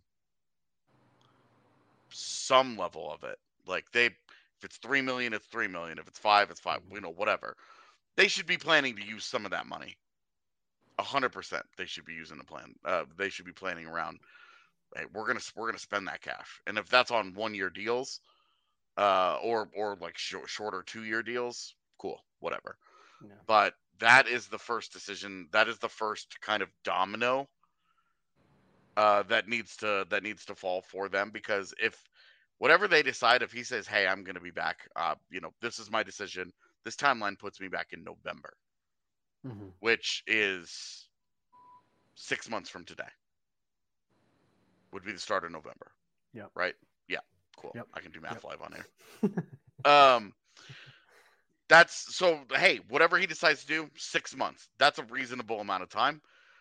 some level of it. Like if it's 3 million, it's 3 million. If it's 5, it's 5. Whatever. They should be planning to use some of that money. 100%. They should be using a plan. They should be planning around. Hey, we're gonna spend that cash, and if that's on 1-year deals, or like shorter 2-year deals, cool, whatever. Yeah. But that is the first decision. That is the first kind of domino that needs to fall for them, because if whatever they decide, if he says, hey, I'm going to be back, this is my decision, this timeline puts me back in November, which is 6 months from today. Would be the start of November. Yeah. Right? Yeah. Cool. Yep. I can do math live on here. That's so, hey, whatever he decides to do, 6 months. That's a reasonable amount of time.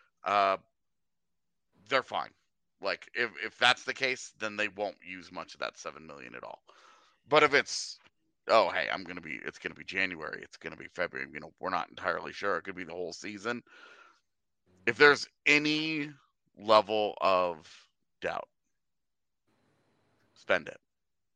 They're fine. Like if that's the case, then they won't use much of that 7 million at all. But if it's, oh, hey, it's going to be January, it's going to be February, we're not entirely sure. It could be the whole season. If there's any level of doubt, spend it.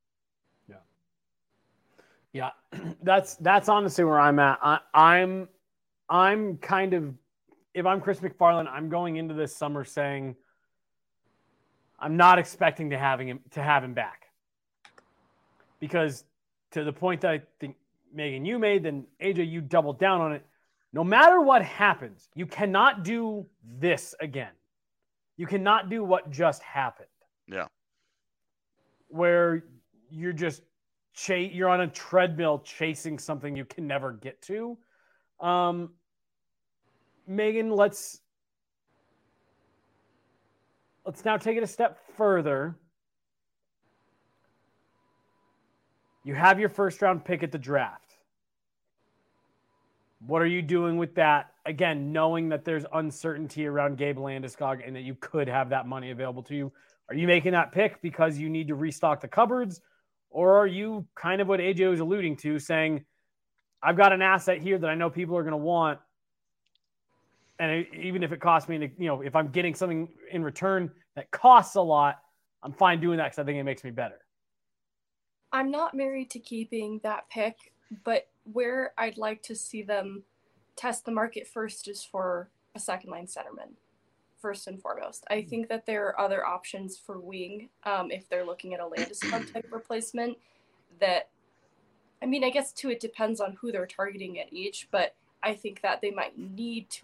Yeah, that's honestly where I'm at. I'm kind of, if I'm Chris McFarland, I'm going into this summer saying I'm not expecting to have him back, because to the point that I think Megan you made, then AJ you doubled down on it. No matter what happens, you cannot do this again. You cannot do what just happened. Yeah. Where you're just you're on a treadmill chasing something you can never get to. Megan, let's now take it a step further. You have your first round pick at the draft. What are you doing with that? Again, knowing that there's uncertainty around Gabe Landeskog and that you could have that money available to you. Are you making that pick because you need to restock the cupboards? Or are you kind of what AJ was alluding to, saying, I've got an asset here that I know people are going to want, and even if it costs me, if I'm getting something in return that costs a lot, I'm fine doing that because I think it makes me better. I'm not married to keeping that pick, but where I'd like to see them test the market first is for a second-line centerman, first and foremost. I think that there are other options for wing if they're looking at a Landeskog type replacement that, I mean, I guess too, it depends on who they're targeting at each, but I think that they might need to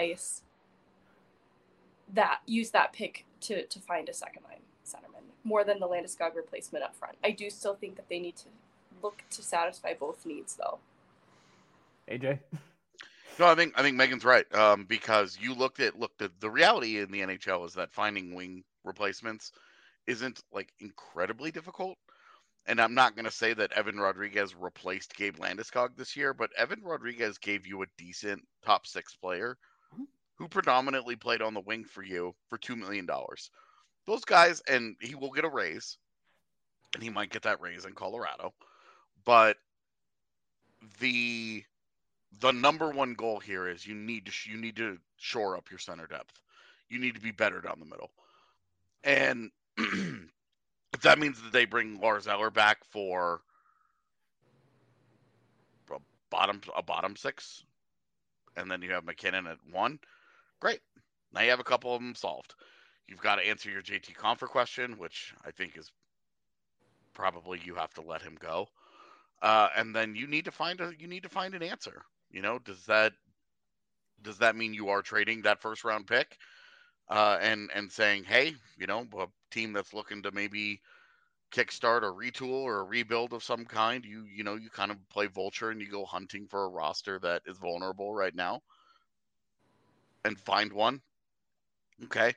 use that pick to find a second-line centerman more than the Landeskog replacement up front. I do still think that they need to look to satisfy both needs, though. AJ? No, I think Megan's right. Because you looked at the reality in the NHL is that finding wing replacements isn't like incredibly difficult. And I'm not going to say that Evan Rodriguez replaced Gabe Landeskog this year, but Evan Rodriguez gave you a decent top 6 player who predominantly played on the wing for you for $2 million. Those guys, and he will get a raise, and he might get that raise in Colorado, but the number one goal here is you need to shore up your center depth. You need to be better down the middle. And if that means that they bring Lars Eller back for a bottom 6, and then you have McKinnon at 1, great. Now you have a couple of them solved. You've got to answer your JT Compher question, which I think is probably you have to let him go. And then you need to find an answer. Does that mean you are trading that first round pick, and saying, hey, a team that's looking to maybe kickstart or retool or a rebuild of some kind, you kind of play vulture and you go hunting for a roster that is vulnerable right now and find one. Okay.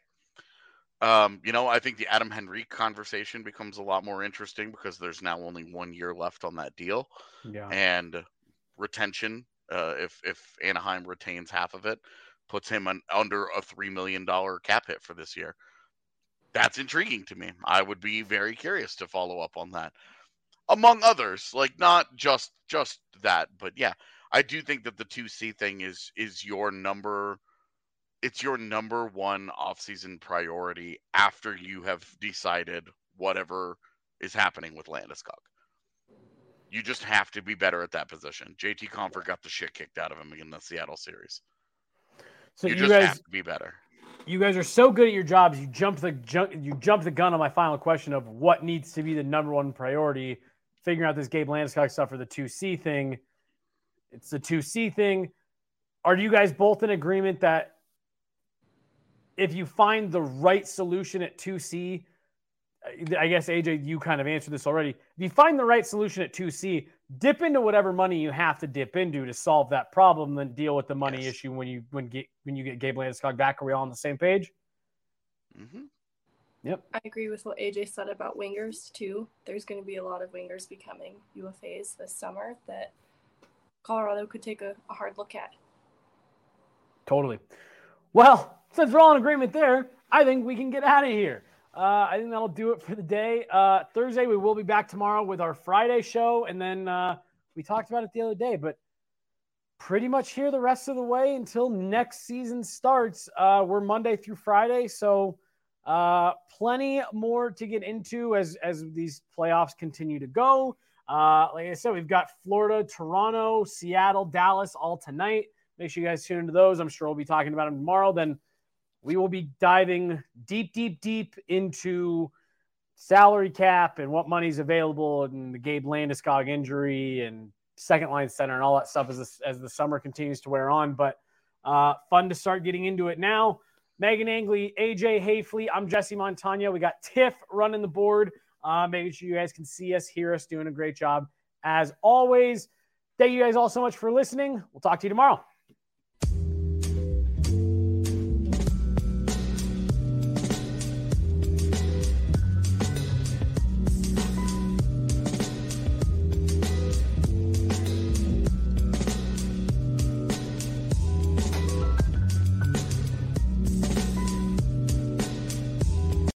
I think the Adam Henrique conversation becomes a lot more interesting because there's now only 1 year left on that deal. Yeah. And retention, if Anaheim retains half of it, puts him under a $3 million cap hit for this year. That's intriguing to me. I would be very curious to follow up on that, among others. Like, not just that, but yeah, I do think that the 2C thing is your number. It's your number one offseason priority after you have decided whatever is happening with Landeskog. You just have to be better at that position. JT Compher got the shit kicked out of him in the Seattle series. So you just have to be better. You guys are so good at your jobs. You jumped the gun on my final question of what needs to be the number one priority. Figuring out this Gabe Landeskog stuff for the 2C thing. It's the 2C thing. Are you guys both in agreement that if you find the right solution at 2C, I guess, AJ, you kind of answered this already. If you find the right solution at 2C, dip into whatever money you have to dip into to solve that problem, then deal with the money issue when you get Gabe Landeskog back. Are we all on the same page? Mm-hmm. Yep. I agree with what AJ said about wingers, too. There's going to be a lot of wingers becoming UFAs this summer that Colorado could take a hard look at. Totally. Well, since we're all in agreement there, I think we can get out of here. I think that'll do it for the day. Thursday, we will be back tomorrow with our Friday show. And then we talked about it the other day, but pretty much here the rest of the way until next season starts. We're Monday through Friday. So plenty more to get into as these playoffs continue to go. Like I said, we've got Florida, Toronto, Seattle, Dallas all tonight. Make sure you guys tune into those. I'm sure we'll be talking about them tomorrow. Then we will be diving deep into salary cap and what money's available and the Gabe Landeskog injury and second line center and all that stuff as the summer continues to wear on. But fun to start getting into it now. Megan Angley, AJ Hayfley, I'm Jesse Montagna. We got Tiff running the board. Making sure you guys can see us, hear us, doing a great job as always. Thank you guys all so much for listening. We'll talk to you tomorrow.